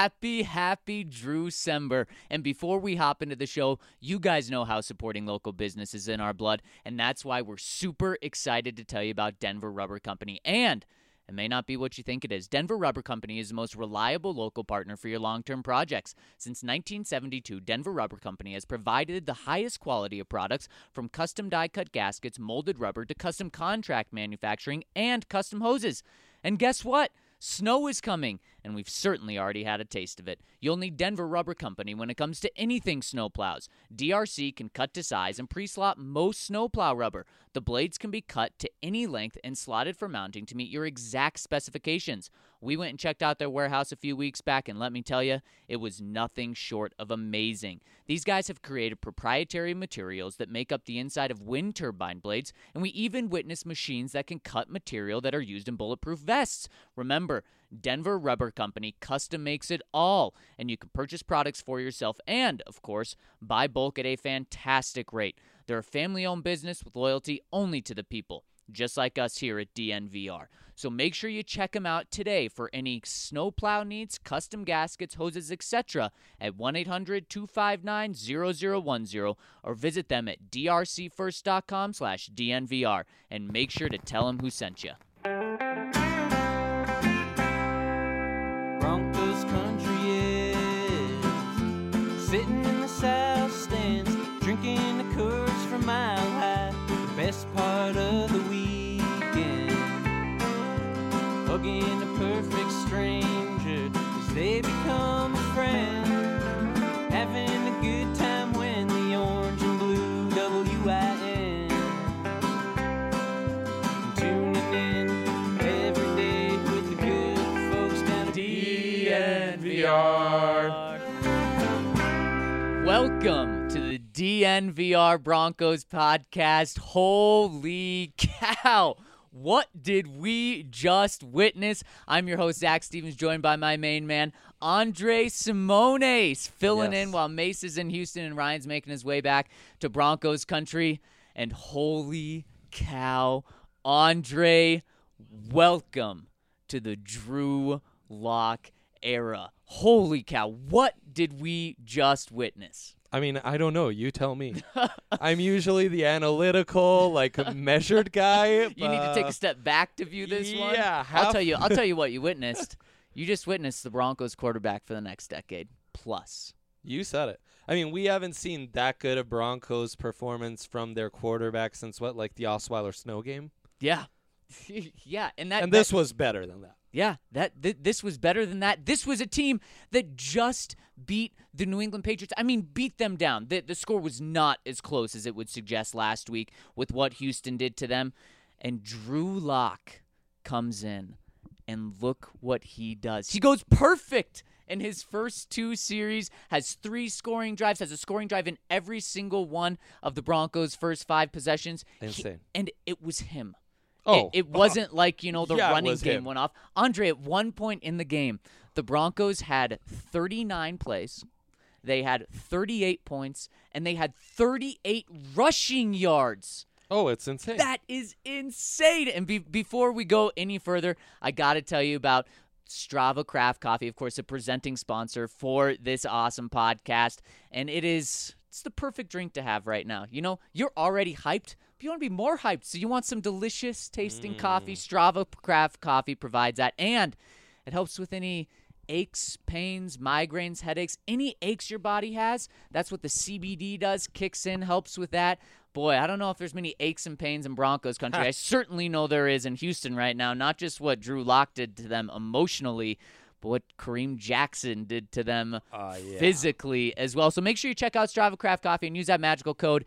Happy Drewcember. And before we hop into the show, you guys know how supporting local business is in our blood, and that's why we're super excited to tell you about Denver Rubber Company. And it may not be what you think it is. Denver Rubber Company is the most reliable local partner for your long-term projects. Since 1972, Denver Rubber Company has provided the highest quality of products, from custom die-cut gaskets, molded rubber, to custom contract manufacturing and custom hoses. And guess what? Snow is coming, and we've certainly already had a taste of it. You'll need Denver Rubber Company when it comes to anything snowplows. DRC can cut to size and pre-slot most snowplow rubber. The blades can be cut to any length and slotted for mounting to meet your exact specifications. We went and checked out their warehouse a few weeks back, and let me tell you, it was nothing short of amazing. These guys have created proprietary materials that make up the inside of wind turbine blades, and we even witnessed machines that can cut material that are used in bulletproof vests. Remember, Denver Rubber Company custom makes it all, and you can purchase products for yourself and, of course, buy bulk at a fantastic rate. They're a family-owned business with loyalty only to the people, just like us here at DNVR. So make sure you check them out today for any snowplow needs, custom gaskets, hoses, etc. at 1-800-259-0010 or visit them at drcfirst.com/DNVR and make sure to tell them who sent you. Broncos country is sitting in the south stands, drinking the Coors from Mile High, the best part of the weekend. Hugging a perfect stranger as they become a friend, having a good time when the orange and blue WIN. Tuning in every day with the good folks down at DNVR. Welcome to the DNVR Broncos podcast. Holy cow! What did we just witness? I'm your host, Zach Stevens, joined by my main man, Andre Simones, filling in while Mace is in Houston and Ryan's making his way back to Broncos country. And holy cow, Andre, welcome to the Drew Lock era. Holy cow, what did we just witness? I mean, I don't know. You tell me. I'm usually the analytical, measured guy. You need to take a step back to view this one. Yeah. I'll tell you what you witnessed. You just witnessed the Broncos quarterback for the next decade plus. You said it. I mean, we haven't seen that good of Broncos performance from their quarterback since the Osweiler Snow game? Yeah. Yeah, and this was better than that. Yeah, this was better than that. This was a team that just beat the New England Patriots. I mean, beat them down. The score was not as close as it would suggest last week with what Houston did to them. And Drew Lock comes in, and look what he does. He goes perfect in his first two series, has 3 scoring drives, has a scoring drive in every single one of the Broncos' first 5 possessions. Insane. And it was him. Oh. It wasn't like, the running game him. went off. Andre, at one point in the game, the Broncos had 39 plays. They had 38 points, and they had 38 rushing yards. Oh, it's insane. That is insane. And before we go any further, I got to tell you about Strava Craft Coffee, of course, a presenting sponsor for this awesome podcast. And it's the perfect drink to have right now. You're already hyped, but you want to be more hyped. So you want some delicious tasting coffee. Strava Craft Coffee provides that. And it helps with any aches, pains, migraines, headaches, any aches your body has. That's what the CBD does, kicks in, helps with that. Boy, I don't know if there's many aches and pains in Broncos country. I certainly know there is in Houston right now, not just what Drew Lock did to them emotionally, but what Kareem Jackson did to them physically as well. So make sure you check out Strava Craft Coffee and use that magical code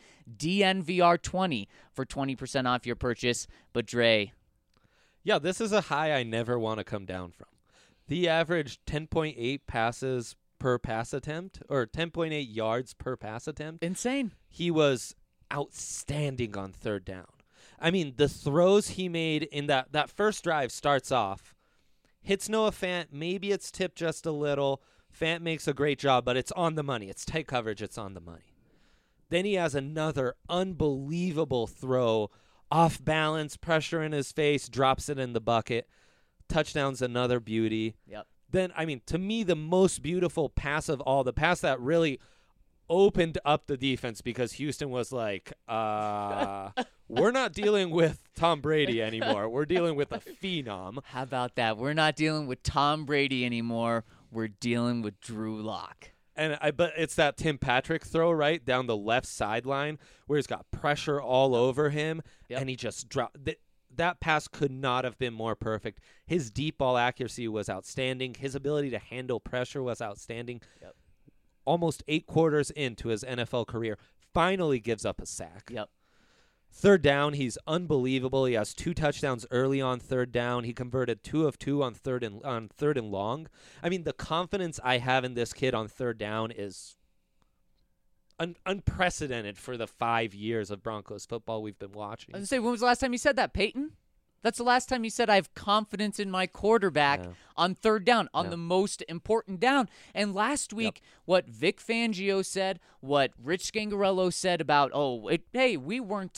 DNVR20 for 20% off your purchase. But Dre. Yeah, this is a high I never want to come down from. The average 10.8 passes per pass attempt, or 10.8 yards per pass attempt. Insane. He was outstanding on third down. I mean, the throws he made in that first drive starts off, hits Noah Fant, maybe it's tipped just a little. Fant makes a great job, but it's on the money. It's tight coverage, it's on the money. Then he has another unbelievable throw, off balance, pressure in his face, drops it in the bucket. Touchdown's another beauty. Yep. then, I mean, to me, the most beautiful pass of all, the pass that really opened up the defense because Houston was like, we're not dealing with Tom Brady anymore. We're dealing with a phenom. How about that? We're not dealing with Tom Brady anymore. We're dealing with Drew Lock. But it's that Tim Patrick throw right down the left sideline where he's got pressure all over him, and he just dropped. That pass could not have been more perfect. His deep ball accuracy was outstanding. His ability to handle pressure was outstanding. Yep. Almost 8 quarters into his NFL career, finally gives up a sack. Yep. Third down, he's unbelievable. He has 2 touchdowns early on third down. He converted 2 of 2 on third and long. I mean, the confidence I have in this kid on third down is unprecedented for the 5 years of Broncos football we've been watching. I was going to say, when was the last time you said that, Peyton? That's the last time you said I have confidence in my quarterback on third down, on the most important down. And last week, what Vic Fangio said, what Rich Scangarello said about, we weren't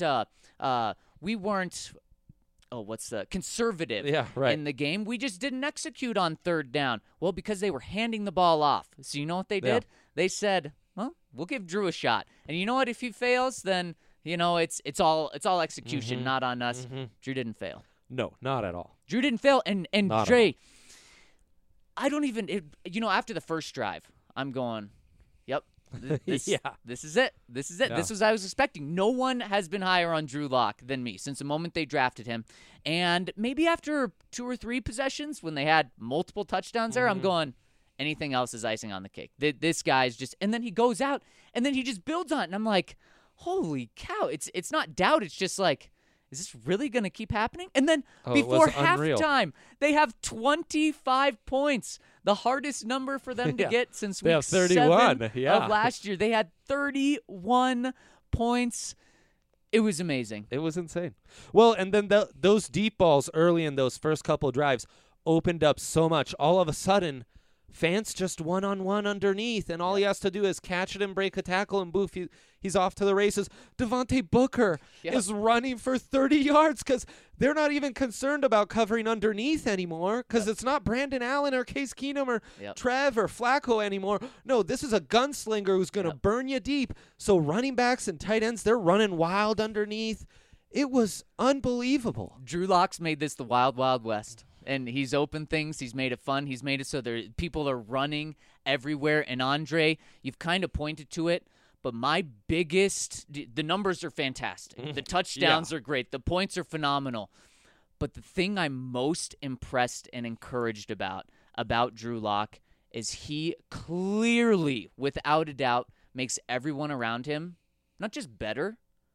conservative in the game. We just didn't execute on third down. Well, because they were handing the ball off. So you know what they did? They said, well, we'll give Drew a shot. And you know what? If he fails, then it's all execution, not on us. Drew didn't fail. No, not at all. Drew didn't fail. And Dre, I don't even after the first drive, I'm going, yep. This is it. This is it. This was I was expecting. No one has been higher on Drew Lock than me since the moment they drafted him. And maybe after 2 or 3 possessions when they had multiple touchdowns there, I'm going, anything else is icing on the cake. This guy's just – and then he goes out, and then he just builds on it. And I'm like, holy cow. It's not doubt. It's just like, is this really going to keep happening? And then before halftime, they have 25 points, the hardest number for them to get since week 7 of last year. They had 31 points. It was amazing. It was insane. Well, and then those deep balls early in those first couple drives opened up so much. All of a sudden, Fant's just one-on-one underneath, and all he has to do is catch it and break a tackle, and boof, he's off to the races. Devontae Booker is running for 30 yards because they're not even concerned about covering underneath anymore because it's not Brandon Allen or Case Keenum or Trev or Flacco anymore. No, this is a gunslinger who's going to burn you deep. So running backs and tight ends, they're running wild underneath. It was unbelievable. Drew Lock's made this the wild, wild west. And he's opened things. He's made it fun. He's made it so people are running everywhere. And Andre, you've kind of pointed to it, but the numbers are fantastic. The touchdowns are great. The points are phenomenal. But the thing I'm most impressed and encouraged about Drew Lock is he clearly, without a doubt, makes everyone around him not just better,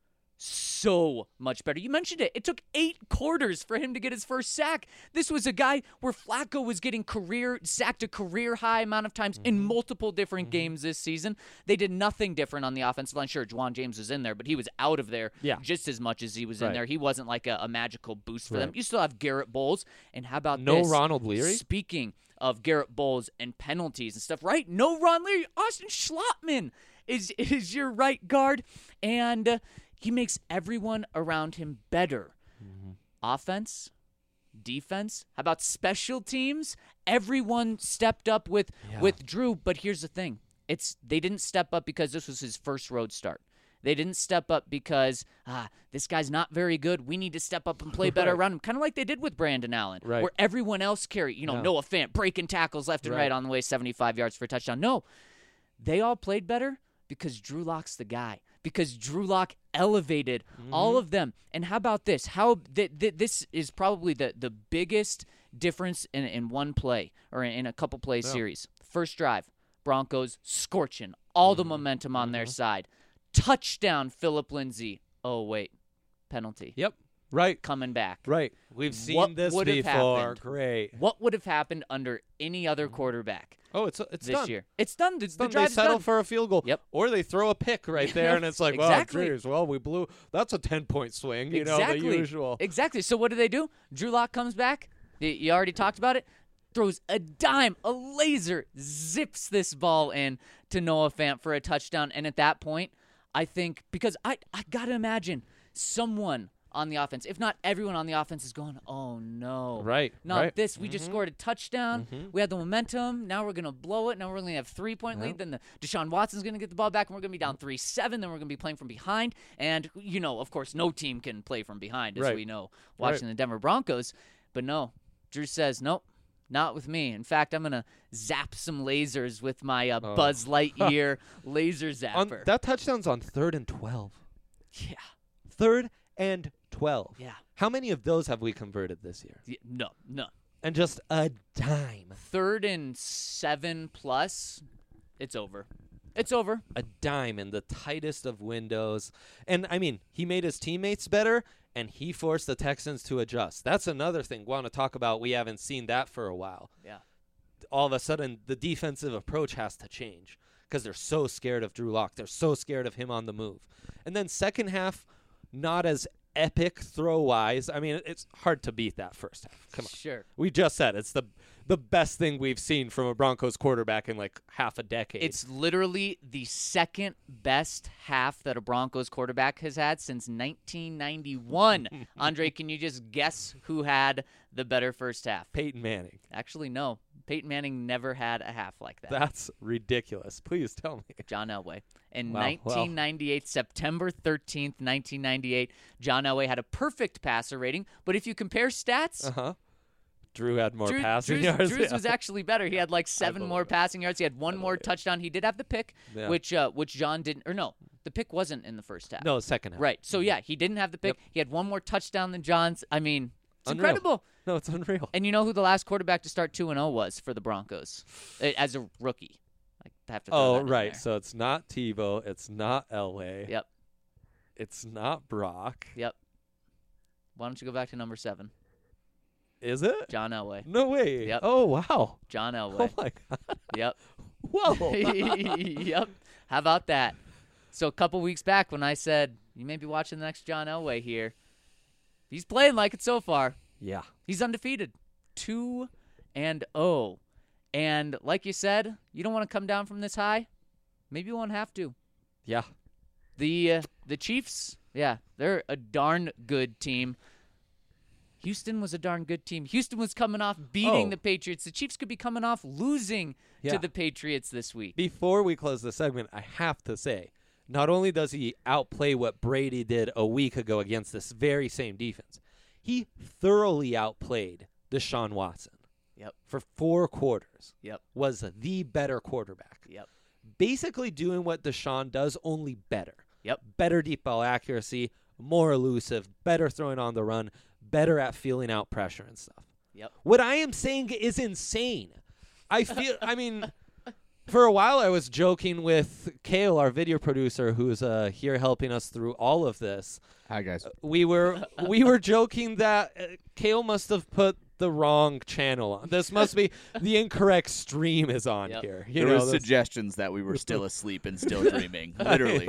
so much better. You mentioned it. It took 8 quarters for him to get his first sack. This was a guy where Flacco was getting sacked a career high amount of times in multiple different games this season. They did nothing different on the offensive line. Sure, Juwan James was in there, but he was out of there just as much as he was in there. He wasn't like a magical boost for them. You still have Garrett Bowles. And how about this? No Ronald Leary? Speaking of Garrett Bowles and penalties and stuff, right? No Ron Leary. Austin Schlottman is your right guard. And he makes everyone around him better. Offense, defense, how about special teams? Everyone stepped up with Drew, but here's the thing. They didn't step up because this was his first road start. They didn't step up because, this guy's not very good. We need to step up and play better around him. Kind of like they did with Brandon Allen, where everyone else carried, Noah Fant breaking tackles left and right on the way, 75 yards for a touchdown. No, they all played better because Drew Lock's the guy. Because Drew Lock elevated all of them. And how about this? This is probably the biggest difference in one play or in a couple play series. First drive, Broncos scorching, all the momentum on their side. Touchdown, Phillip Lindsay. Oh, wait, penalty. Yep. Right. Coming back. Right. We've seen this before. Great. What would have happened under any other quarterback? Oh, it's this done. year. It's done. The they drive's settle done. for a field goal. Yep. Or they throw a pick right there, and it's like, exactly. geez, well, we blew. That's a 10-point swing, the usual. Exactly. So what do? Drew Lock comes back. You already talked about it. Throws a dime, a laser, zips this ball in to Noah Fant for a touchdown. And at that point, I think, because I got to imagine someone on the offense, if not everyone on the offense, is going, oh, no. Right. Not right. this. We just scored a touchdown. We had the momentum. Now we're going to blow it. Now we're going to have 3-point lead. Then Deshaun Watson's going to get the ball back, and we're going to be down 3-7. Then we're going to be playing from behind. And, of course, no team can play from behind, as we know, watching the Denver Broncos. But no, Drew says, nope. Not with me. In fact, I'm going to zap some lasers with my Buzz Lightyear laser zapper. That touchdown's on 3rd and 12. Yeah. 3rd and 12. Yeah. How many of those have we converted this year? Yeah, no. And just a dime. 3rd and 7+, it's over. It's over. A dime in the tightest of windows. And, I mean, he made his teammates better, and he forced the Texans to adjust. That's another thing we want to talk about. We haven't seen that for a while. Yeah. All of a sudden, the defensive approach has to change because they're so scared of Drew Lock. They're so scared of him on the move. And then second half, not as epic throw-wise. I mean, it's hard to beat that first half. Come on. Sure. We just said it's the best thing we've seen from a Broncos quarterback in like half a decade. It's literally the second best half that a Broncos quarterback has had since 1991. Andre, can you just guess who had the better first half? Peyton Manning. Actually, no. Peyton Manning never had a half like that. That's ridiculous. Please tell me. John Elway. In Wow. 1998, September 13th, 1998, John Elway had a perfect passer rating. But if you compare stats, Uh-huh. Drew had more passing yards. Drew's Yeah. was actually better. He had like 7 believe more it. passing yards. He had one more touchdown. He did have the pick, Yeah. which John didn't. Or no, the pick wasn't in the first half. No, second half. Right. So, yeah, he didn't have the pick. Yep. He had one more touchdown than John's. I mean, it's Unreal. incredible. No, it's unreal. And you know who the last quarterback to start 2-0 was for the Broncos as a rookie? I have to throw that in Right. there. So it's not Tebow. It's not Elway. Yep. It's not Brock. Yep. Why don't you go back to number 7? Is it? John Elway. No way. Yep. Oh, wow. John Oh, Elway. my God. Yep. Whoa. Yep. How about that? So a couple weeks back when I said, you may be watching the next John Elway here, he's playing like it so far. Yeah. He's undefeated. 2-0. And like you said, you don't want to come down from this high. Maybe you won't have to. Yeah. The Chiefs, yeah, they're a darn good team. Houston was a darn good team. Houston was coming off beating the Patriots. The Chiefs could be coming off losing to the Patriots this week. Before we close the segment, I have to say, not only does he outplay what Brady did a week ago against this very same defense, he thoroughly outplayed Deshaun Watson. Yep. For 4 quarters. Yep. Was the better quarterback. Yep. Basically doing what Deshaun does, only better. Yep. Better deep ball accuracy, more elusive, better throwing on the run, better at feeling out pressure and stuff. Yep. What I am saying is insane. I feel, I mean, for a while I was joking with Kale, our video producer, who's here helping us through all of this. Hi, guys. We were joking that Kale must have put the wrong channel on. This must be the incorrect stream is on Yep. here. There was suggestions that we were still asleep and still dreaming. Literally.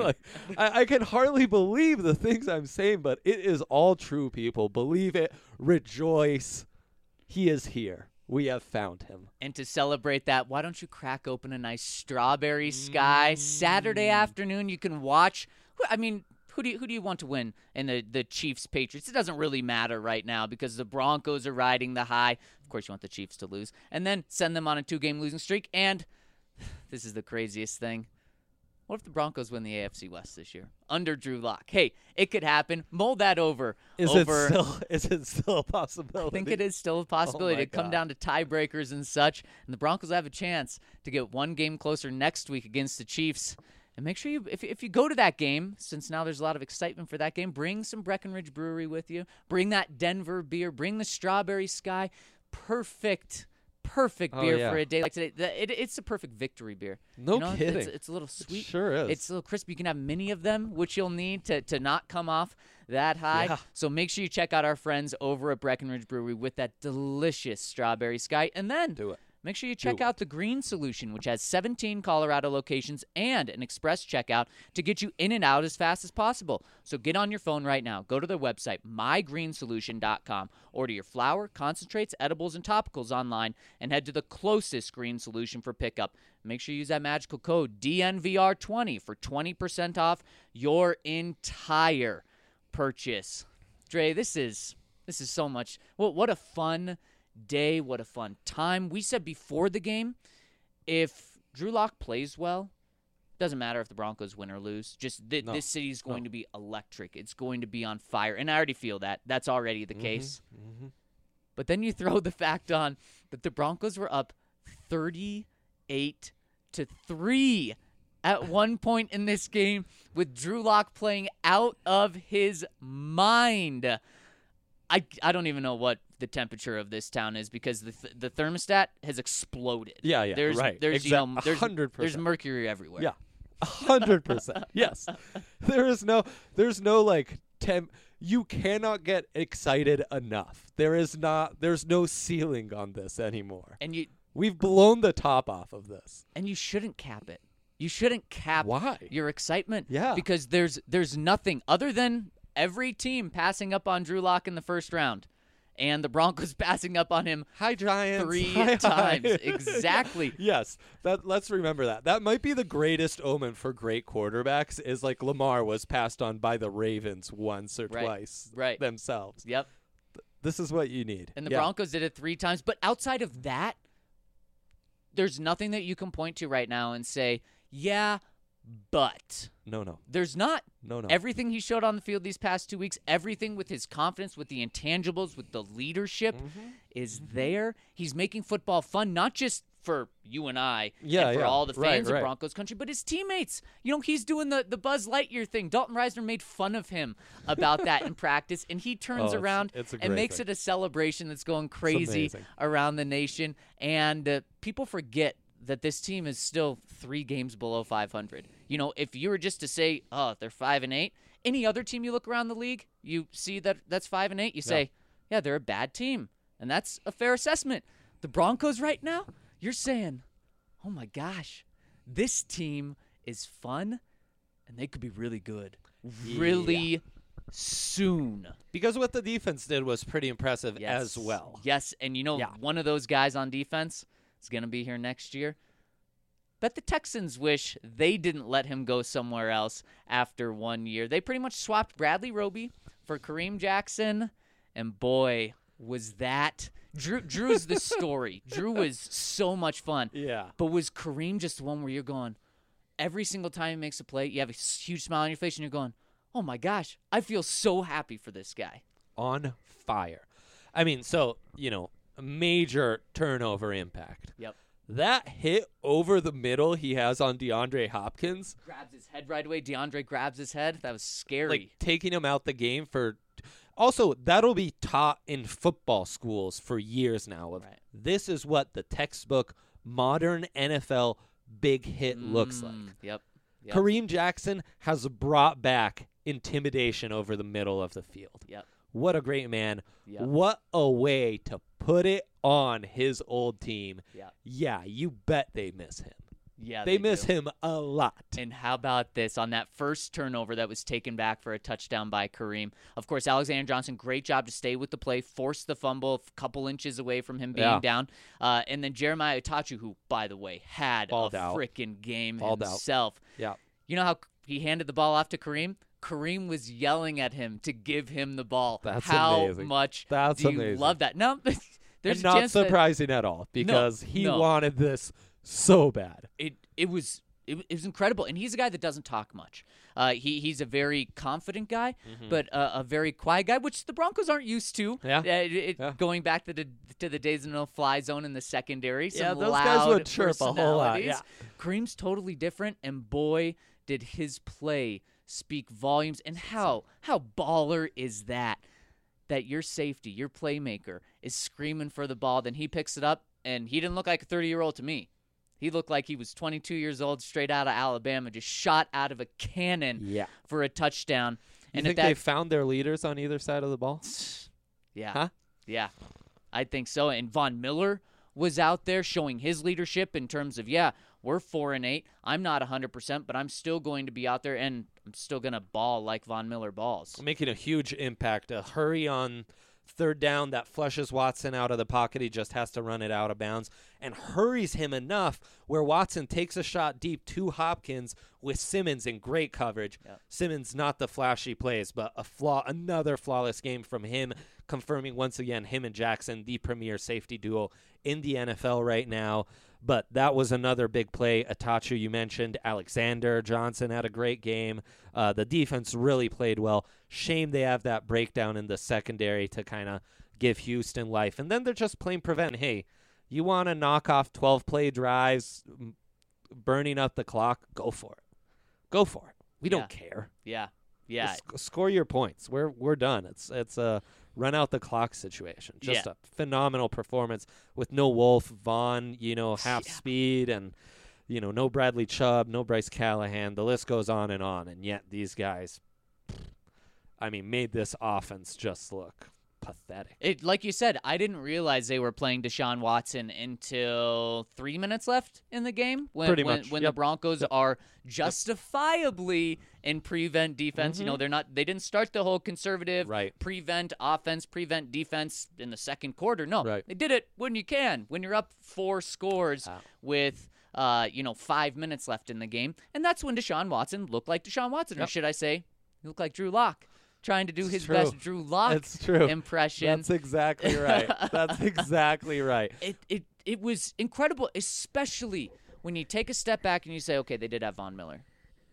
I can hardly believe the things I'm saying, but it is all true, people. Believe it. Rejoice. He is here. We have found him. And to celebrate that, why don't you crack open a nice strawberry sky? Saturday afternoon, you can watch. I mean, who do you want to win in the Chiefs Patriots? It doesn't really matter right now because the Broncos are riding the high. Of course, you want the Chiefs to lose, and then send them on a 2-game losing streak. And this is the craziest thing. What if the Broncos win the AFC West this year under Drew Lock? Hey, it could happen. Mull that over. Is it still a possibility? I think it is still a possibility. Oh my to come God. down to tiebreakers and such. And the Broncos have a chance to get 1 game closer next week against the Chiefs. And make sure you, if you go to that game, since now there's a lot of excitement for that game, bring some Breckenridge Brewery with you. Bring that Denver beer. Bring the Strawberry Sky. Perfect beer yeah. for a day like today. It's a perfect victory beer. No You know, kidding. It's a little sweet. Sure is. It's a little crispy. You can have many of them, which you'll need to not come off that high. Yeah. So make sure you check out our friends over at Breckenridge Brewery with that delicious Strawberry Sky. And then Do it. make sure you check out the Green Solution, which has 17 Colorado locations and an express checkout to get you in and out as fast as possible. So get on your phone right now. Go to their website, mygreensolution.com. Order your flour, concentrates, edibles, and topicals online and head to the closest Green Solution for pickup. Make sure you use that magical code DNVR20 for 20% off your entire purchase. Dre, this is so much. What a fun day. What a fun time. We said before the game, if Drew Lock plays well, doesn't matter if the Broncos win or lose. Just this city is going to be electric. It's going to be on fire. And I already feel that. That's already the case. Mm-hmm. But then you throw the fact on that the Broncos were up 38-3 at one point in this game with Drew Lock playing out of his mind. I don't even know what the temperature of this town is because the thermostat has exploded. Yeah, There's right. there's 100%. there's mercury everywhere. Yeah, 100%. Yes, there's no like temp. You cannot get excited enough. There's no ceiling on this anymore. And We've blown the top off of this. And you shouldn't cap it. You shouldn't cap Why? your excitement. Yeah. Because there's nothing other than every team passing up on Drew Lock in the first round. And the Broncos passing up on him Hi, Giants. 3 Hi. times. Exactly. Yes. Let's remember that. That might be the greatest omen for great quarterbacks is like Lamar was passed on by the Ravens once or twice themselves. Yep. This is what you need. And the Broncos did it 3 times. But outside of that, there's nothing that you can point to right now and say, yeah, but. No. There's not. No. Everything he showed on the field these past 2 weeks, everything with his confidence, with the intangibles, with the leadership is there. He's making football fun, not just for you and I and for all the fans of Broncos country, but his teammates. You know, he's doing the Buzz Lightyear thing. Dalton Reisner made fun of him about that in practice, and he turns around and makes it a celebration that's going crazy around the nation. And people forget that this team is still 3 games below 500. You know, if you were just to say, oh, they're 5-8, any other team you look around the league, you see that's 5-8, you say, yeah, they're a bad team. And that's a fair assessment. The Broncos right now, you're saying, oh my gosh, this team is fun and they could be really good really soon. Because what the defense did was pretty impressive as well. Yes, and you know, one of those guys on defense is going to be here next year. Bet the Texans wish they didn't let him go somewhere else after 1 year. They pretty much swapped Bradley Roby for Kareem Jackson, and boy, was that Drew's the story. Drew was so much fun. Yeah. But was Kareem just the one where you're going, every single time he makes a play, you have a huge smile on your face and you're going, oh my gosh, I feel so happy for this guy. On fire. I mean, so, you know, a major turnover impact. Yep. That hit over the middle he has on DeAndre Hopkins. Grabs his head right away. DeAndre grabs his head. That was scary. Like, taking him out the game for... Also, that'll be taught in football schools for years now. This is what the textbook modern NFL big hit looks like. Yep. Kareem Jackson has brought back intimidation over the middle of the field. Yep. What a great man. Yep. What a way to put it on his old team. Yep. Yeah, you bet they miss him. Yeah, they miss do. him a lot. And how about this? On that first turnover that was taken back for a touchdown by Kareem, of course, Alexander Johnson, great job to stay with the play, forced the fumble a couple inches away from him being down. And then Jeremiah Itachu, who, by the way, had a freaking game himself. Yeah. You know how he handed the ball off to Kareem? Kareem was yelling at him to give him the ball. That's how amazing. much That's do you amazing. love that? No, there's and a not chance surprising at all because he no. wanted this so bad. It was incredible, and he's a guy that doesn't talk much. He's a very confident guy, but a very quiet guy, which the Broncos aren't used to. Going back to the days of no-fly zone in the secondary. Some those loud guys would chirp a whole lot. personalities. Kareem's totally different, and boy, did his play speak volumes. And how baller is that your safety, your playmaker, is screaming for the ball, then he picks it up, and he didn't look like a 30-year-old to me. He looked like he was 22 years old, straight out of Alabama, just shot out of a cannon for a touchdown. You think they found their leaders on either side of the ball? Yeah. Huh? Yeah. I think so. And Von Miller was out there showing his leadership in terms of, we're 4-8. I'm not 100%, but I'm still going to be out there, and I'm still going to ball like Von Miller balls. Making a huge impact. A hurry on third down that flushes Watson out of the pocket. He just has to run it out of bounds and hurries him enough where Watson takes a shot deep to Hopkins with Simmons in great coverage. Yep. Simmons, not the flashy plays, but another flawless game from him, confirming once again him and Jackson, the premier safety duo in the NFL right now. But that was another big play. Atachu, you mentioned. Alexander Johnson had a great game. The defense really played well. Shame they have that breakdown in the secondary to kind of give Houston life. And then they're just playing prevent. Hey, you want to knock off 12-play drives, burning up the clock? Go for it. Go for it. We don't care. Yeah. Just score your points. We're done. It's a run out the clock situation. Just a phenomenal performance with no Wolf, Vaughn, half speed, and no Bradley Chubb, no Bryce Callahan. The list goes on, and yet these guys, made this offense just look pathetic. Like you said, I didn't realize they were playing Deshaun Watson until 3 minutes left in the game when the Broncos are justifiably in prevent defense. Mm-hmm. They didn't start the whole conservative prevent offense, prevent defense in the second quarter. No, they did it when you can, when you're up 4 scores with 5 minutes left in the game. And that's when Deshaun Watson looked like Deshaun Watson, or should I say, he looked like Drew Lock. Trying to do his best Drew Lock impression. That's exactly right. That's exactly right. It was incredible, especially when you take a step back and you say, okay, they did have Von Miller.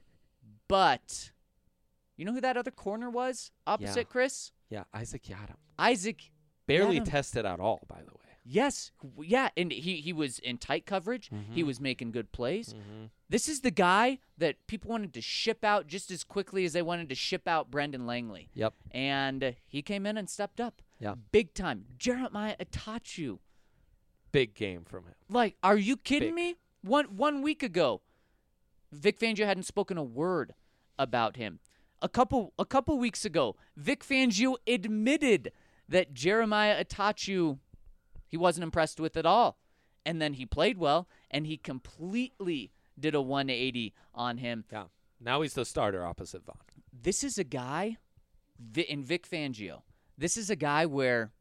But you know who that other corner was opposite Chris? Yeah, Isaac Yiadom. Isaac barely Yiadom. Tested at all, by the way. Yes. Yeah, and he was in tight coverage. Mm-hmm. He was making good plays. Mm-hmm. This is the guy that people wanted to ship out just as quickly as they wanted to ship out Brendan Langley. Yep. And he came in and stepped up. Yeah. Big time. Jeremiah Atachu. Big game from him. Like, are you kidding me? One week ago, Vic Fangio hadn't spoken a word about him. A couple weeks ago, Vic Fangio admitted that Jeremiah Atachu he wasn't impressed with at all. And then he played well, and he completely did a 180 on him. Yeah. Now he's the starter opposite Vaughn. This is a guy, in Vic Fangio, this is a guy where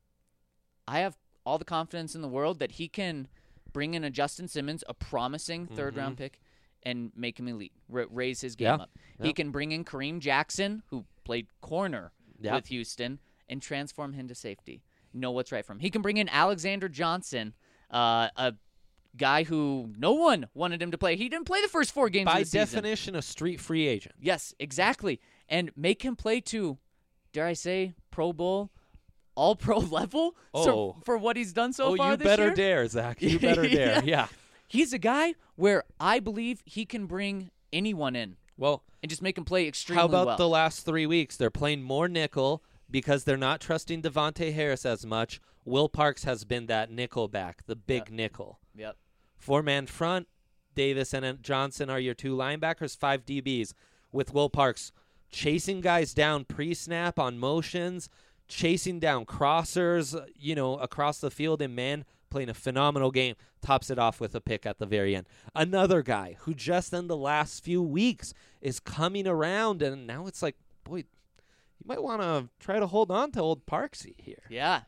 I have all the confidence in the world that he can bring in a Justin Simmons, a promising third-round pick, and make him elite, raise his game up. Yeah. He can bring in Kareem Jackson, who played corner with Houston, and transform him to safety. Know what's right for him. He can bring in Alexander Johnson, a guy who no one wanted him to play. He didn't play the first 4 games of the season. By definition, a street free agent. Yes, exactly. And make him play to, dare I say, Pro Bowl, all-pro level for what he's done so far this year. Oh, you better dare, Zach. You better dare. Yeah. He's a guy where I believe he can bring anyone in. Well, and just make him play extremely well. How about the last 3 weeks? They're playing more nickel because they're not trusting Devontae Harris as much. Will Parks has been that nickel back, the big nickel. Yep. 4-man front. Davis and Johnson are your 2 linebackers, 5 DBs, with Will Parks chasing guys down pre-snap on motions, chasing down crossers, across the field in man, playing a phenomenal game. Tops it off with a pick at the very end. Another guy who just in the last few weeks is coming around, and now it's like, boy, you might want to try to hold on to old Parksy here. Yeah,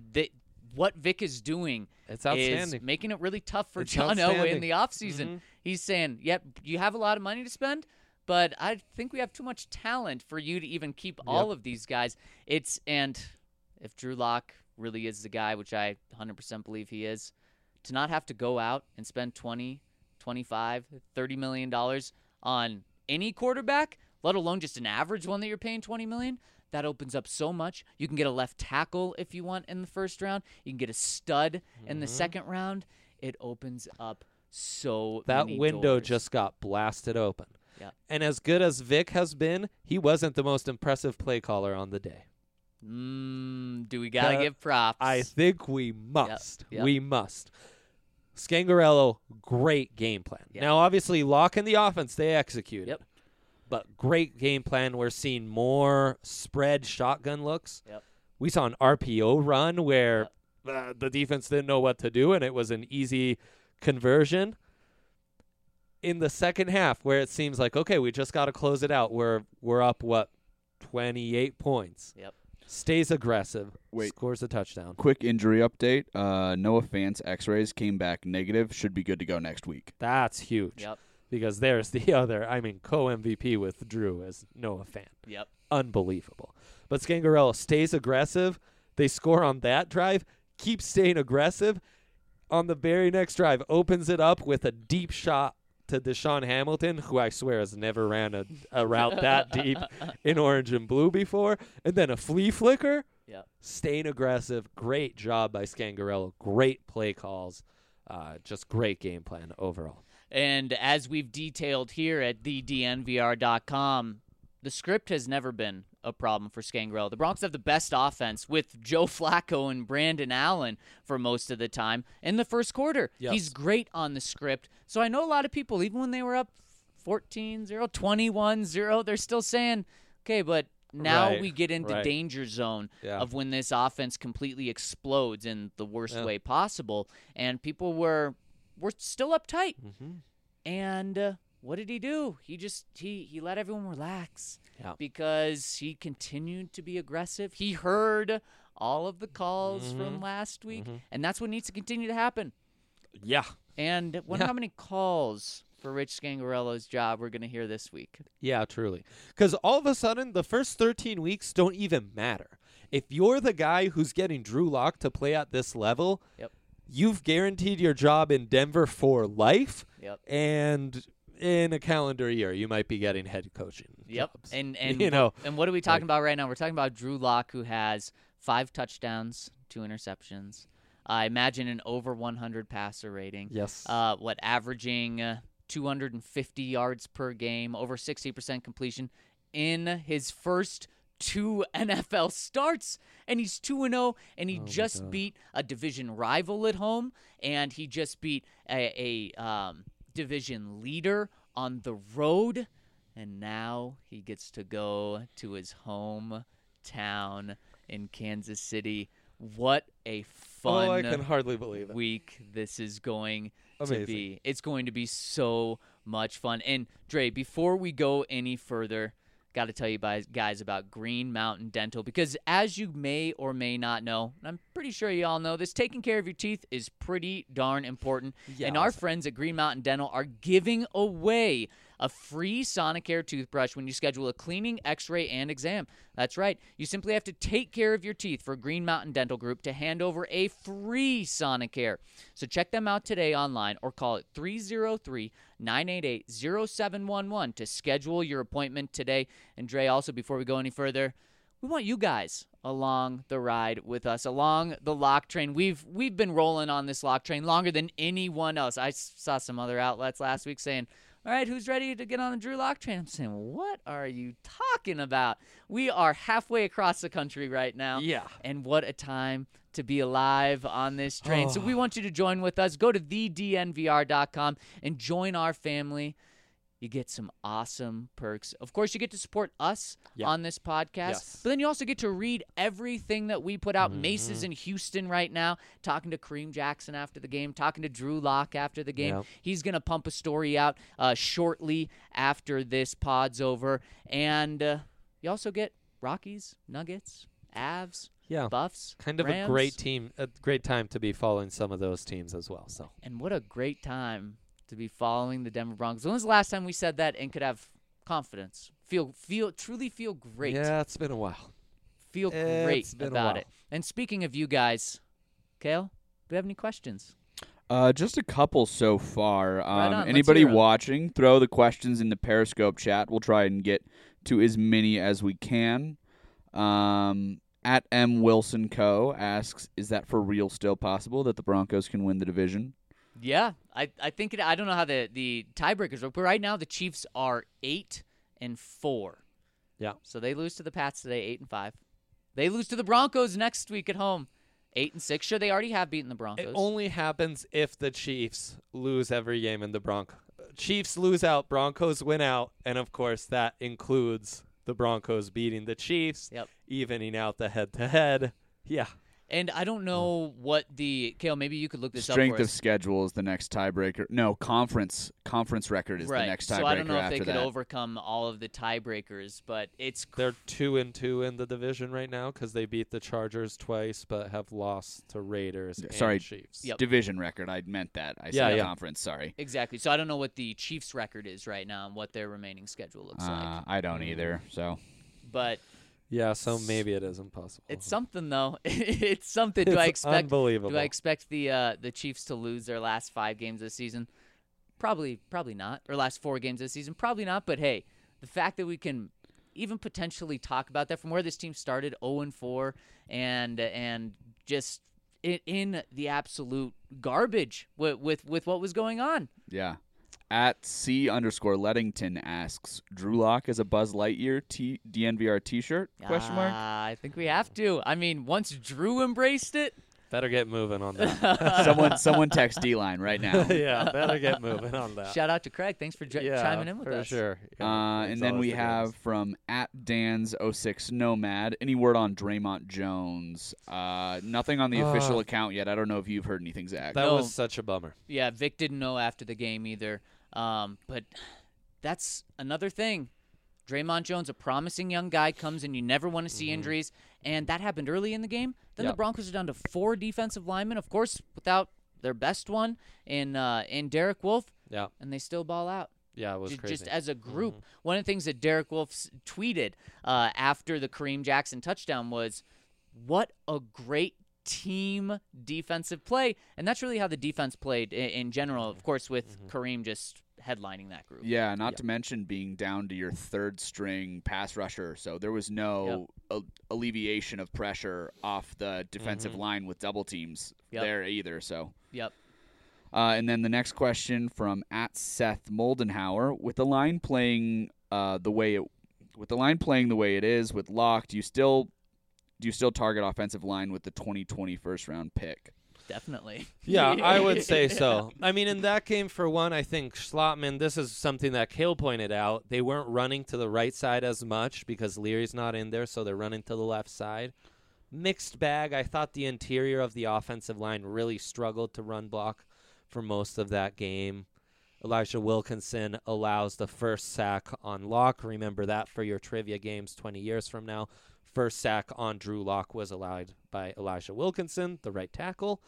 what Vic is doing it's outstanding. Is making it really tough for John Elway in the offseason. Mm-hmm. He's saying, yep, you have a lot of money to spend, but I think we have too much talent for you to even keep all of these guys. And if Drew Lock really is the guy, which I 100% believe he is, to not have to go out and spend $20, $25, $30 million on any quarterback, let alone just an average one that you're paying $20 million, that opens up so much. You can get a left tackle if you want in the first round. You can get a stud in the second round. It opens up so many That window doors. just got blasted open. Yeah. And as good as Vic has been, he wasn't the most impressive play caller on the day. Do we got to give props? I think we must. Yep. We must. Scangarello, great game plan. Yep. Now, obviously, Locke in the offense, they executed. Yep. But great game plan. We're seeing more spread shotgun looks. Yep. We saw an RPO run where the defense didn't know what to do, and it was an easy conversion. In the second half, where it seems like, okay, we just got to close it out. We're up, 28 points. Yep. Stays aggressive. Wait. Scores a touchdown. Quick injury update. Noah Fant's X-rays came back negative. Should be good to go next week. That's huge. Yep. Because there's the other, co-MVP with Drew as Noah Fant. Yep. Unbelievable. But Scangarello stays aggressive. They score on that drive, keeps staying aggressive. On the very next drive, opens it up with a deep shot to Deshaun Hamilton, who I swear has never ran a route that deep in orange and blue before. And then a flea flicker. Yep. Staying aggressive. Great job by Scangarello. Great play calls. Just great game plan overall. And as we've detailed here at thednvr.com, the script has never been a problem for Scangarello. The Broncos have the best offense with Joe Flacco and Brandon Allen for most of the time in the first quarter. Yes. He's great on the script. So I know a lot of people, even when they were up 14-0, 21-0, they're still saying, okay, but now Right, we get into right. danger zone Yeah. of when this offense completely explodes in the worst way possible. And people were still uptight. Mm-hmm. And what did he do? He let everyone relax Yeah. because he continued to be aggressive. He heard all of the calls from last week, and that's what needs to continue to happen. Yeah. And wonder how many calls for Rich Scangarello's job we're going to hear this week. Yeah, truly. Because all of a sudden, the first 13 weeks don't even matter. If you're the guy who's getting Drew Lock to play at this level, Yep. you've guaranteed your job in Denver for life. Yep. And in a calendar year, you might be getting head coaching jobs. And you know, and what are we talking about right now? We're talking about Drew Lock, who has 5 touchdowns, 2 interceptions. I imagine an over 100 passer rating. yes. Averaging 250 yards per game, over 60% completion in his first 2 NFL starts, and he's 2-0, and he just beat a division rival at home, and he just beat a division leader on the road, and now he gets to go to his hometown in Kansas City. What a fun I can hardly believe it. week this is going Amazing. to be. It's going to be so much fun. And Dre, before we go any further, got to tell you guys about Green Mountain Dental, because as you may or may not know, and I'm pretty sure you all know this, taking care of your teeth is pretty darn important. Yeah, and our awesome. friends at Green Mountain Dental are giving away a free Sonicare toothbrush when you schedule a cleaning, x-ray, and exam. That's right. You simply have to take care of your teeth for Green Mountain Dental Group to hand over a free Sonicare. So check them out today online or call it 303-988-0711 to schedule your appointment today. And Dre, also, before we go any further, we want you guys along the ride with us, along the lock train. We've been rolling on this lock train longer than anyone else. I saw some other outlets last week saying, all right, who's ready to get on the Drew Lock train? I'm saying, what are you talking about? We are halfway across the country right now. Yeah. And what a time to be alive on this train. So we want you to join with us. Go to thednvr.com and join our family. You get some awesome perks. Of course, you get to support us on this podcast, Yes. but then you also get to read everything that we put out. Mace is in Houston right now, talking to Kareem Jackson after the game, talking to Drew Lock after the game. Yep. He's going to pump a story out shortly after this pod's over. And you also get Rockies, Nuggets, Avs, Yeah. Buffs, Kind of Rams. a great team, a great time to be following some of those teams as well. So And what a great time to be following the Denver Broncos. When was the last time we said that and could have confidence? Truly feel great. yeah, it's been a while. Feel great It's been a about while. it. And speaking of you guys, Kale, do you have any questions? Just a couple so far. on, let's Anybody hear 'em. watching, throw the questions in the Periscope chat. We'll try and get to as many as we can. At M Wilson Co. asks, is that for real still possible that the Broncos can win the division? Yeah, I think it. I don't know how the tiebreakers work, but right now the Chiefs are 8-4. Yeah. So they lose to the Pats today, 8-5. They lose to the Broncos next week at home, 8-6. Sure, they already have beaten the Broncos. It only happens if the Chiefs lose every game in the Broncos. Chiefs lose out, Broncos win out, and of course that includes the Broncos beating the Chiefs, Yep. evening out the head-to-head. Yeah. And I don't know what Kale, maybe you could look this Strength up for of us. schedule is the next tiebreaker. No, conference record is Right. the next tiebreaker So I don't know if after they could that. overcome all of the tiebreakers, but it's They're 2-2 in the division right now because they beat the Chargers twice, but have lost to Raiders Sorry. and Chiefs. Yep. Division record. I meant that. I Yeah, said yeah. conference. Sorry. exactly. So I don't know what the Chiefs' record is right now and what their remaining schedule looks like. I don't either. So But Yeah, so maybe it is impossible. it's something though. It's something. It's unbelievable. Do I expect the Chiefs to lose their last 5 games this season? Probably not. Or last 4 games this season? Probably not. But hey, the fact that we can even potentially talk about that from where this team started 0-4 and just in the absolute garbage with what was going on. yeah. At C_Lettington asks, Drew Lock as a Buzz Lightyear DNVR T-shirt? Question mark. I think we have to. I mean, once Drew embraced it. Better get moving on that. Someone text D-line right now. Yeah, better get moving on that. Shout out to Craig. Thanks for chiming in with for us. sure. Yeah, it's And then always we the have greatest. from at Dan's06 Nomad. Any word on Draymond Jones? Nothing on the official account yet. I don't know if you've heard anything, Zach. That No. was such a bummer. Yeah, Vic didn't know after the game either. But that's another thing. Draymond Jones, a promising young guy, comes and you never want to see injuries, and that happened early in the game. Then the Yep. Broncos are down to 4 defensive linemen, of course, without their best one in Derek Wolfe, Yeah, and they still ball out. yeah, it was crazy. Just as a group. One of the things that Derek Wolfe tweeted after the Kareem Jackson touchdown was, what a great team defensive play. And that's really how the defense played in general, of course, with Kareem just headlining that group. Yeah, not to mention being down to your third string pass rusher, so there was no alleviation of pressure off the defensive line with double teams there either. So, Yep. and then the next question from at Seth Moldenhauer, with the line playing the way it is with Locke, do you still target offensive line with the 2020 first round pick? Definitely. Yeah, I would say so. I mean, in that game, for one, I think Schlotman, this is something that Kale pointed out. They weren't running to the right side as much because Leary's not in there, so they're running to the left side. Mixed bag. I thought the interior of the offensive line really struggled to run block for most of that game. Elijah Wilkinson allows the first sack on Locke. Remember that for your trivia games 20 years from now. First sack on Drew Lock was allowed by Elijah Wilkinson, the right tackle.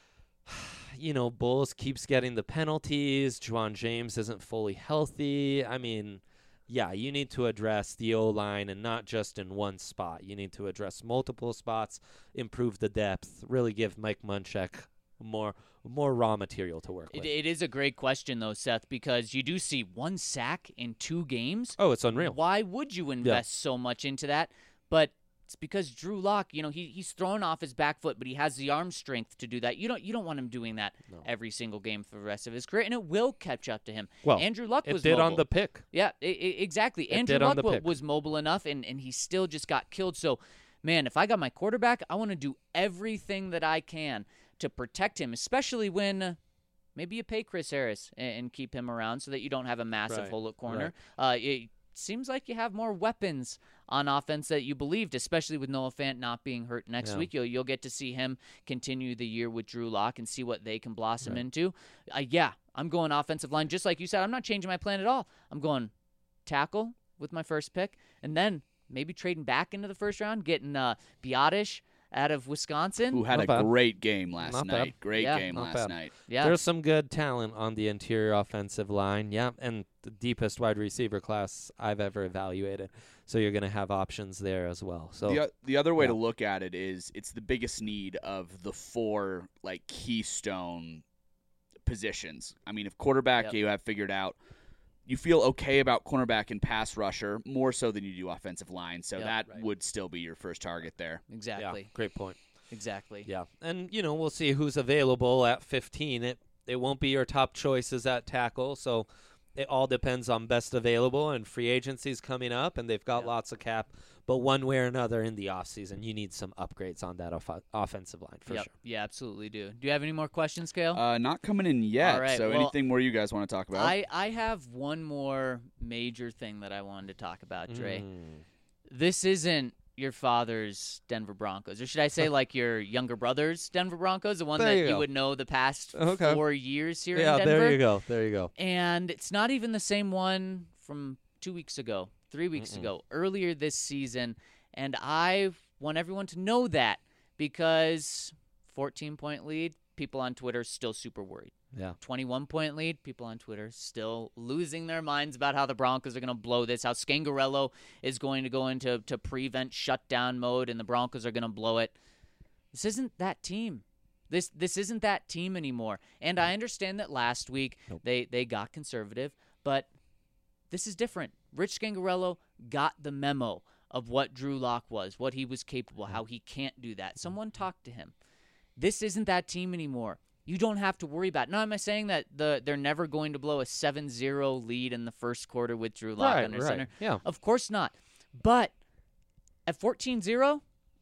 You know, Bulls keeps getting the penalties. Juwan James isn't fully healthy. I mean, yeah, you need to address the O-line and not just in one spot. You need to address multiple spots, improve the depth, really give Mike Munchak more raw material to work with. It is a great question, though, Seth, because you do see 1 sack in 2 games. Oh, it's unreal. Why would you invest so much into that? But it's because Drew Lock, he's thrown off his back foot, but he has the arm strength to do that. You don't want him doing that every single game for the rest of his career, and it will catch up to him. Well, Andrew Luck it was did mobile. on the pick. Yeah, exactly. It Andrew did on Luck the pick. was mobile enough, and he still just got killed. So, man, if I got my quarterback, I want to do everything that I can to protect him, especially when maybe you pay Chris Harris and keep him around so that you don't have a massive Right, hole at corner. It seems like you have more weapons on offense that you believed, especially with Noah Fant not being hurt next week. You'll get to see him continue the year with Drew Lock and see what they can blossom into. I'm going offensive line. Just like you said, I'm not changing my plan at all. I'm going tackle with my first pick, and then maybe trading back into the first round, getting Biotish out of Wisconsin. Who had Not a bad. great game last Not night. bad. Great Yeah. game Not last bad. night. Yeah. There's some good talent on the interior offensive line. Yeah, and the deepest wide receiver class I've ever evaluated. So you're going to have options there as well. So The other way yeah. to look at it is it's the biggest need of the 4 keystone positions. I mean, if quarterback Yep. you have figured out, you feel okay about cornerback and pass rusher more so than you do offensive line. So Yep. that Right. would still be your first target there. Exactly. yeah, great point. Exactly. Yeah, and we'll see who's available at 15. It won't be your top choices at tackle, so it all depends on best available, and free agency's coming up, and they've got Yeah. lots of cap. But one way or another in the offseason, you need some upgrades on that offensive line for Yep. sure. Yeah, absolutely do. Do you have any more questions, Kale? Not coming in yet. All right, So well, anything more you guys want to talk about? I have one more major thing that I wanted to talk about, Dre. Mm. This isn't your father's Denver Broncos, or should I say like your younger brother's Denver Broncos, the one There that you you go. would know the past Okay. 4 years here Yeah, in Denver. There you go. And it's not even the same one from 2 weeks ago, 3 weeks ago, earlier this season. And I want everyone to know that because 14-point lead, people on Twitter still super worried. Yeah. 21-point lead, people on Twitter still losing their minds about how the Broncos are going to blow this, how Scangarello is going to go into prevent shutdown mode, and the Broncos are going to blow it. This isn't that team. This isn't that team anymore. And I understand that last week they got conservative, but this is different. Rich Scangarello got the memo of what Drew Lock was, what he was capable, how he can't do that. Someone talked to him. This isn't that team anymore. You don't have to worry about it. Now, am I saying that they're never going to blow a 7-0 lead in the first quarter with Drew Lock under center? Yeah. Of course not. But at 14-0,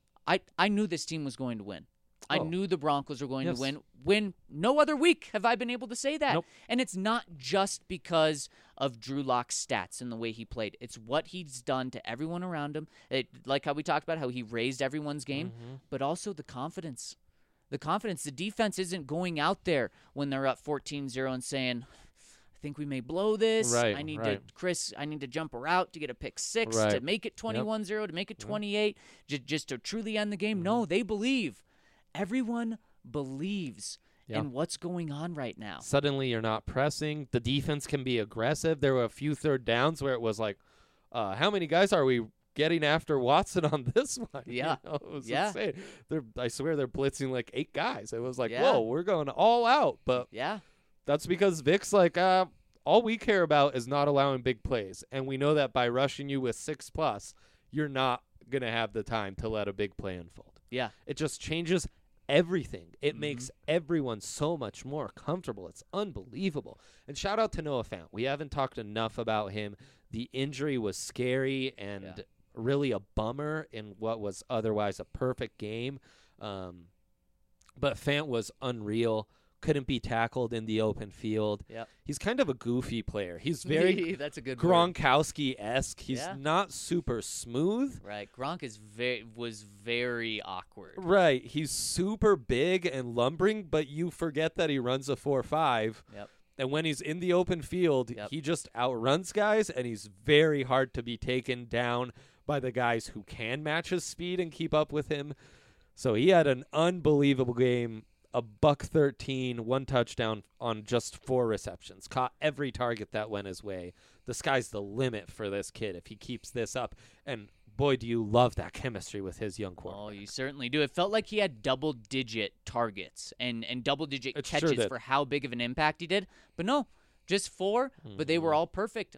I knew this team was going to win. I knew the Broncos were going to win. When no other week have I been able to say that. Nope. And it's not just because of Drew Lock's stats and the way he played. It's what he's done to everyone around him. Like how we talked about how he raised everyone's game, but also the confidence. The confidence. The defense isn't going out there when they're up 14-0 and saying, I think we may blow this. Right, I need right. I need to jump a route to get a pick six, Right. to make it 21-0, to make it 28, just to truly end the game. No, they believe. Everyone believes in what's going on right now. Suddenly you're not pressing. The defense can be aggressive. There were a few third downs where it was like, how many guys are we getting after Watson on this one? Yeah. You know, it was Yeah. insane. I swear they're blitzing like 8 guys. It was like, Yeah. whoa, we're going all out. But Yeah. that's because Vic's like, all we care about is not allowing big plays. And we know that by rushing you with 6+, you're not going to have the time to let a big play unfold. Yeah. It just changes everything. It makes everyone so much more comfortable. It's unbelievable. And shout out to Noah Fant. We haven't talked enough about him. The injury was scary and really a bummer in what was otherwise a perfect game. But Fant was unreal. Couldn't be tackled in the open field. Yep. He's kind of a goofy player. He's very That's a good word. Gronkowski-esque. He's Yeah. not super smooth. Right. Gronk was very awkward. Right. He's super big and lumbering, but you forget that he runs a 4.5. Yep. And when he's in the open field, he just outruns guys, and he's very hard to be taken down by the guys who can match his speed and keep up with him. So he had an unbelievable game. A $113, 1 touchdown on just 4 receptions. Caught every target that went his way. The sky's the limit for this kid if he keeps this up. And boy, do you love that chemistry with his young quarterback. Oh, you certainly do. It felt like he had double-digit targets and double-digit It sure catches did. for how big of an impact he did. But no, just 4, but they were all perfect.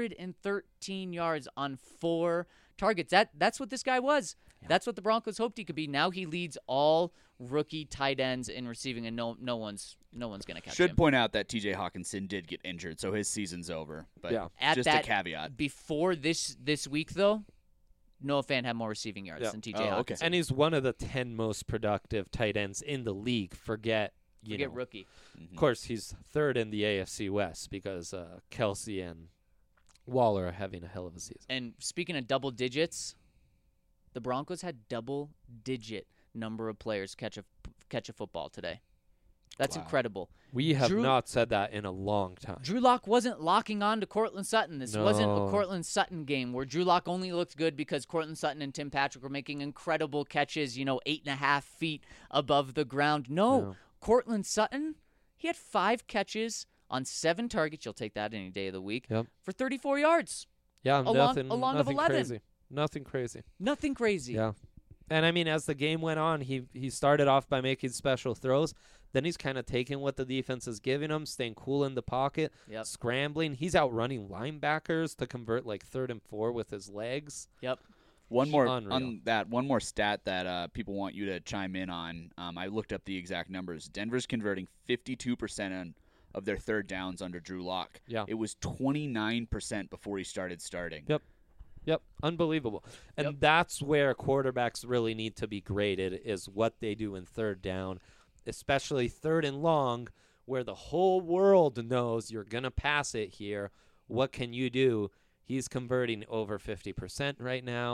113 yards on 4 targets. That's what this guy was. Yeah. That's what the Broncos hoped he could be. Now he leads all rookie tight ends in receiving, and no one's going to catch him. Should point out that T.J. Hawkinson did get injured, so his season's over. But just a caveat. Before this week, though, Noah Fant had more receiving yards than T.J. Hawkinson. Okay. And he's one of the 10 most productive tight ends in the league. Forget rookie. Of course, he's 3rd in the AFC West because Kelsey and Waller are having a hell of a season. And speaking of double digits, the Broncos had double-digit number of players catch a football today. That's incredible. We have not said that in a long time. Drew Lock wasn't locking on to Courtland Sutton. This wasn't a Courtland Sutton game where Drew Lock only looked good because Courtland Sutton and Tim Patrick were making incredible catches, 8.5 feet above the ground. No. Courtland Sutton, he had 5 catches on 7 targets. You'll take that any day of the week for 34 yards. Yeah, nothing of 11. Crazy. Nothing crazy. Nothing crazy. Yeah. And, I mean, as the game went on, he started off by making special throws. Then he's kind of taking what the defense is giving him, staying cool in the pocket, scrambling. He's outrunning linebackers to convert like 3rd and 4 with his legs. Yep. One more stat that people want you to chime in on. I looked up the exact numbers. Denver's converting 52% of their 3rd downs under Drew Lock. Yeah. It was 29% before he started starting. Yep, unbelievable. And that's where quarterbacks really need to be graded, is what they do in 3rd down, especially 3rd and long, where the whole world knows you're going to pass it here. What can you do? He's converting over 50% right now.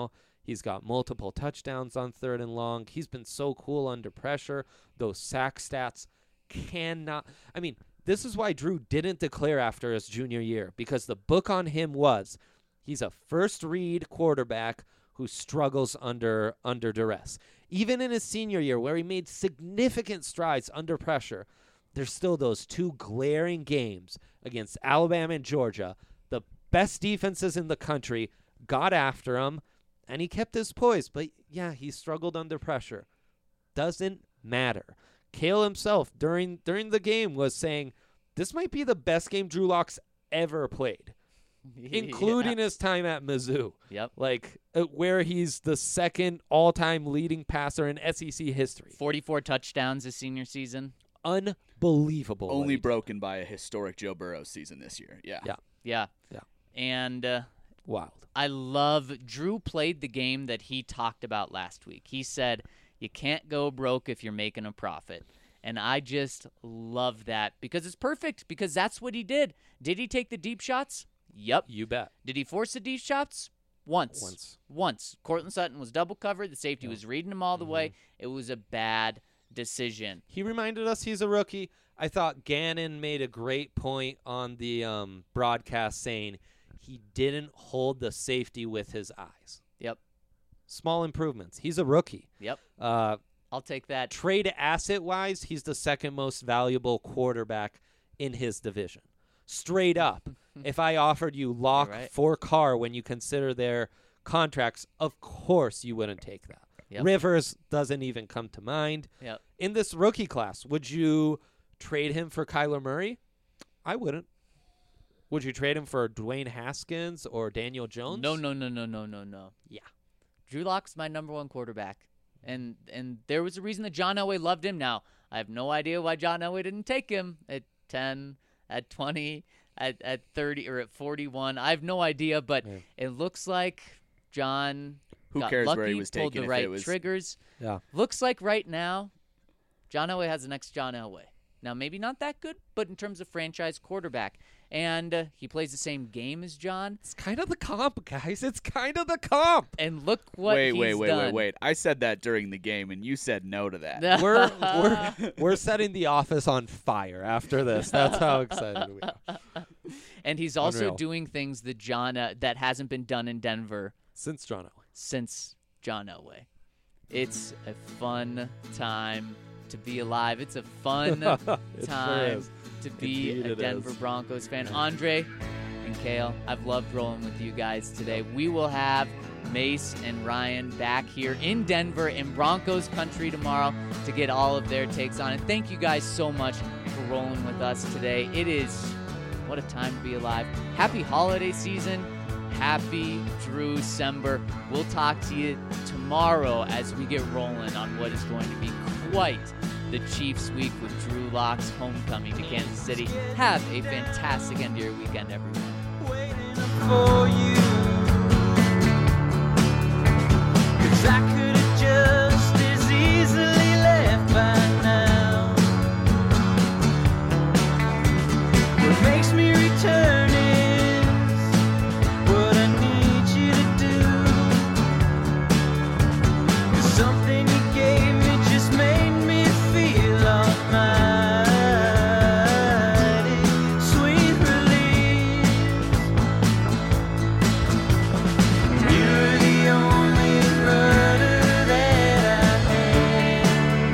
He's got multiple touchdowns on 3rd and long. He's been so cool under pressure. Those sack stats cannot. I mean, this is why Drew didn't declare after his junior year, because the book on him was he's a first-read quarterback who struggles under duress. Even in his senior year, where he made significant strides under pressure, there's still those 2 glaring games against Alabama and Georgia. The best defenses in the country got after him, and he kept his poise. But, yeah, he struggled under pressure. Doesn't matter. Cale himself, during the game, was saying, this might be the best game Drew Lock's ever played, including his time at Mizzou. Yep. Like, where he's the second all-time leading passer in SEC history. 44 touchdowns his senior season. Unbelievable. Only broken by a historic Joe Burrow season this year. Yeah. Yeah. Yeah. And Wild. I love Drew played the game that he talked about last week. He said, you can't go broke if you're making a profit. And I just love that because it's perfect, because that's what he did. Did he take the deep shots? Yep. You bet. Did he force the deep shots? Once. Cortland Sutton was double covered. The safety was reading him all the way. It was a bad decision. He reminded us he's a rookie. I thought Gannon made a great point on the broadcast saying he didn't hold the safety with his eyes. Yep. Small improvements. He's a rookie. Yep. I'll take that. Trade asset-wise, he's the second most valuable quarterback in his division. Straight up. If I offered you Locke for Carr when you consider their contracts, of course you wouldn't take that. Yep. Rivers doesn't even come to mind. Yep. In this rookie class, would you trade him for Kyler Murray? I wouldn't. Would you trade him for Dwayne Haskins or Daniel Jones? No. Yeah. Drew Lock's my number 1 quarterback. And there was a reason that John Elway loved him. Now, I have no idea why John Elway didn't take him at 10, at 20, at 30, or at 41. I have no idea, but it looks like John got cares lucky, where he was pulled taken the if right it was... triggers. Yeah. Looks like right now, John Elway has the next John Elway. Now, maybe not that good, but in terms of franchise quarterback. And he plays the same game as John. It's kind of the comp, guys. It's kind of the comp. And look what he's done. Wait. I said that during the game, and you said no to that. We're setting the office on fire after this. That's how excited we are. And he's also Unreal. doing things that that hasn't been done in Denver Since John Elway. It's a fun time to be alive. It's a fun time to be Indeed a Denver Broncos fan. Andre and Cale, I've loved rolling with you guys today. We will have Mace and Ryan back here in Denver in Broncos country tomorrow to get all of their takes on it. Thank you guys so much for rolling with us today. It is what a time to be alive. Happy holiday season. Happy Drew-cember. We'll talk to you tomorrow as we get rolling on what is going to be quite the Chiefs week with Drew Lock's homecoming to Kansas City. Have a fantastic end of your weekend, everyone. Waiting for you, 'cause I could have just as easily left by now. What makes me return is what I need you to do. 'Cause something you gave me just made me feel almighty. Sweet release. You're the only rudder that I had.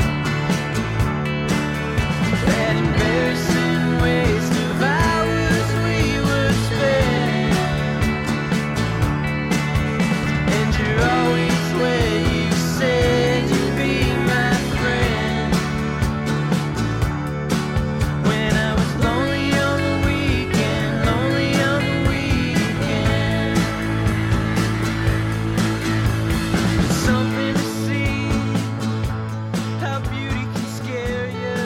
That embarrassing waste of hours we were spent. And you're always where you said you'd be my friend. When I was lonely on the weekend, It's something to see how beauty can scare you.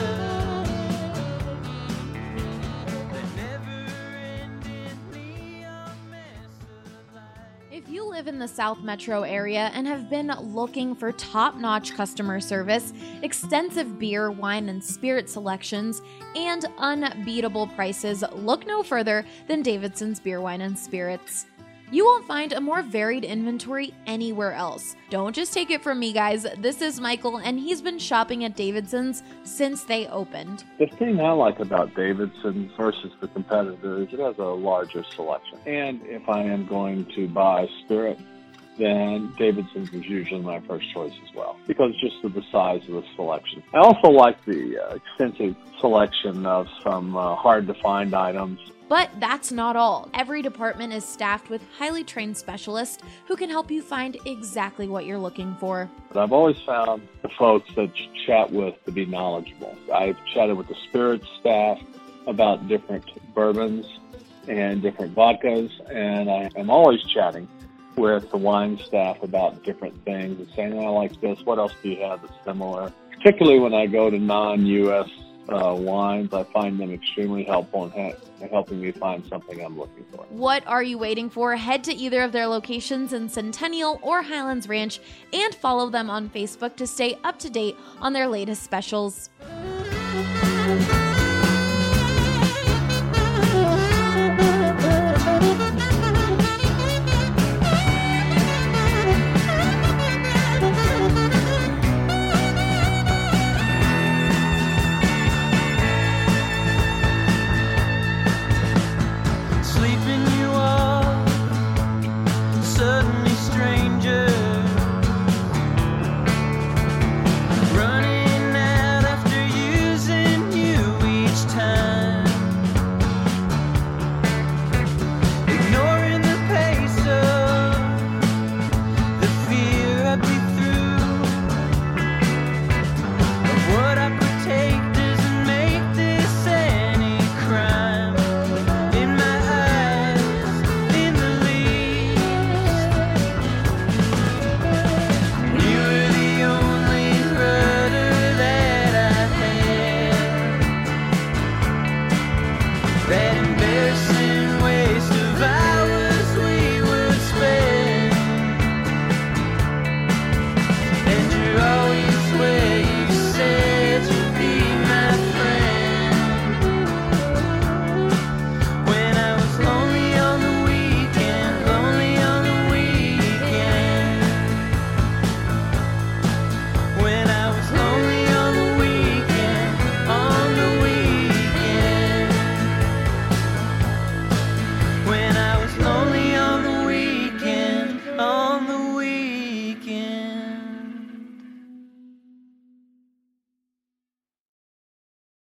The never-ending neon mess of life. If you live in the South Metro area and have been looking for top-notch customer service, extensive beer, wine, and spirit selections, and unbeatable prices, look no further than Davidson's Beer, Wine, and Spirits. You won't find a more varied inventory anywhere else. Don't just take it from me, guys. This is Michael, and he's been shopping at Davidson's since they opened. The thing I like about Davidson's versus the competitors, it has a larger selection. And if I am going to buy Spirit, then Davidson's is usually my first choice as well, because just of the size of the selection. I also like the extensive selection of some hard-to-find items. But that's not all. Every department is staffed with highly trained specialists who can help you find exactly what you're looking for. But I've always found the folks that you chat with to be knowledgeable. I've chatted with the Spirit staff about different bourbons and different vodkas, and I am always chatting with the wine staff about different things and saying, I like this, what else do you have that's similar? Particularly when I go to non-U.S. Wines, I find them extremely helpful in helping me find something I'm looking for. What are you waiting for? Head to either of their locations in Centennial or Highlands Ranch and follow them on Facebook to stay up to date on their latest specials. Sleeping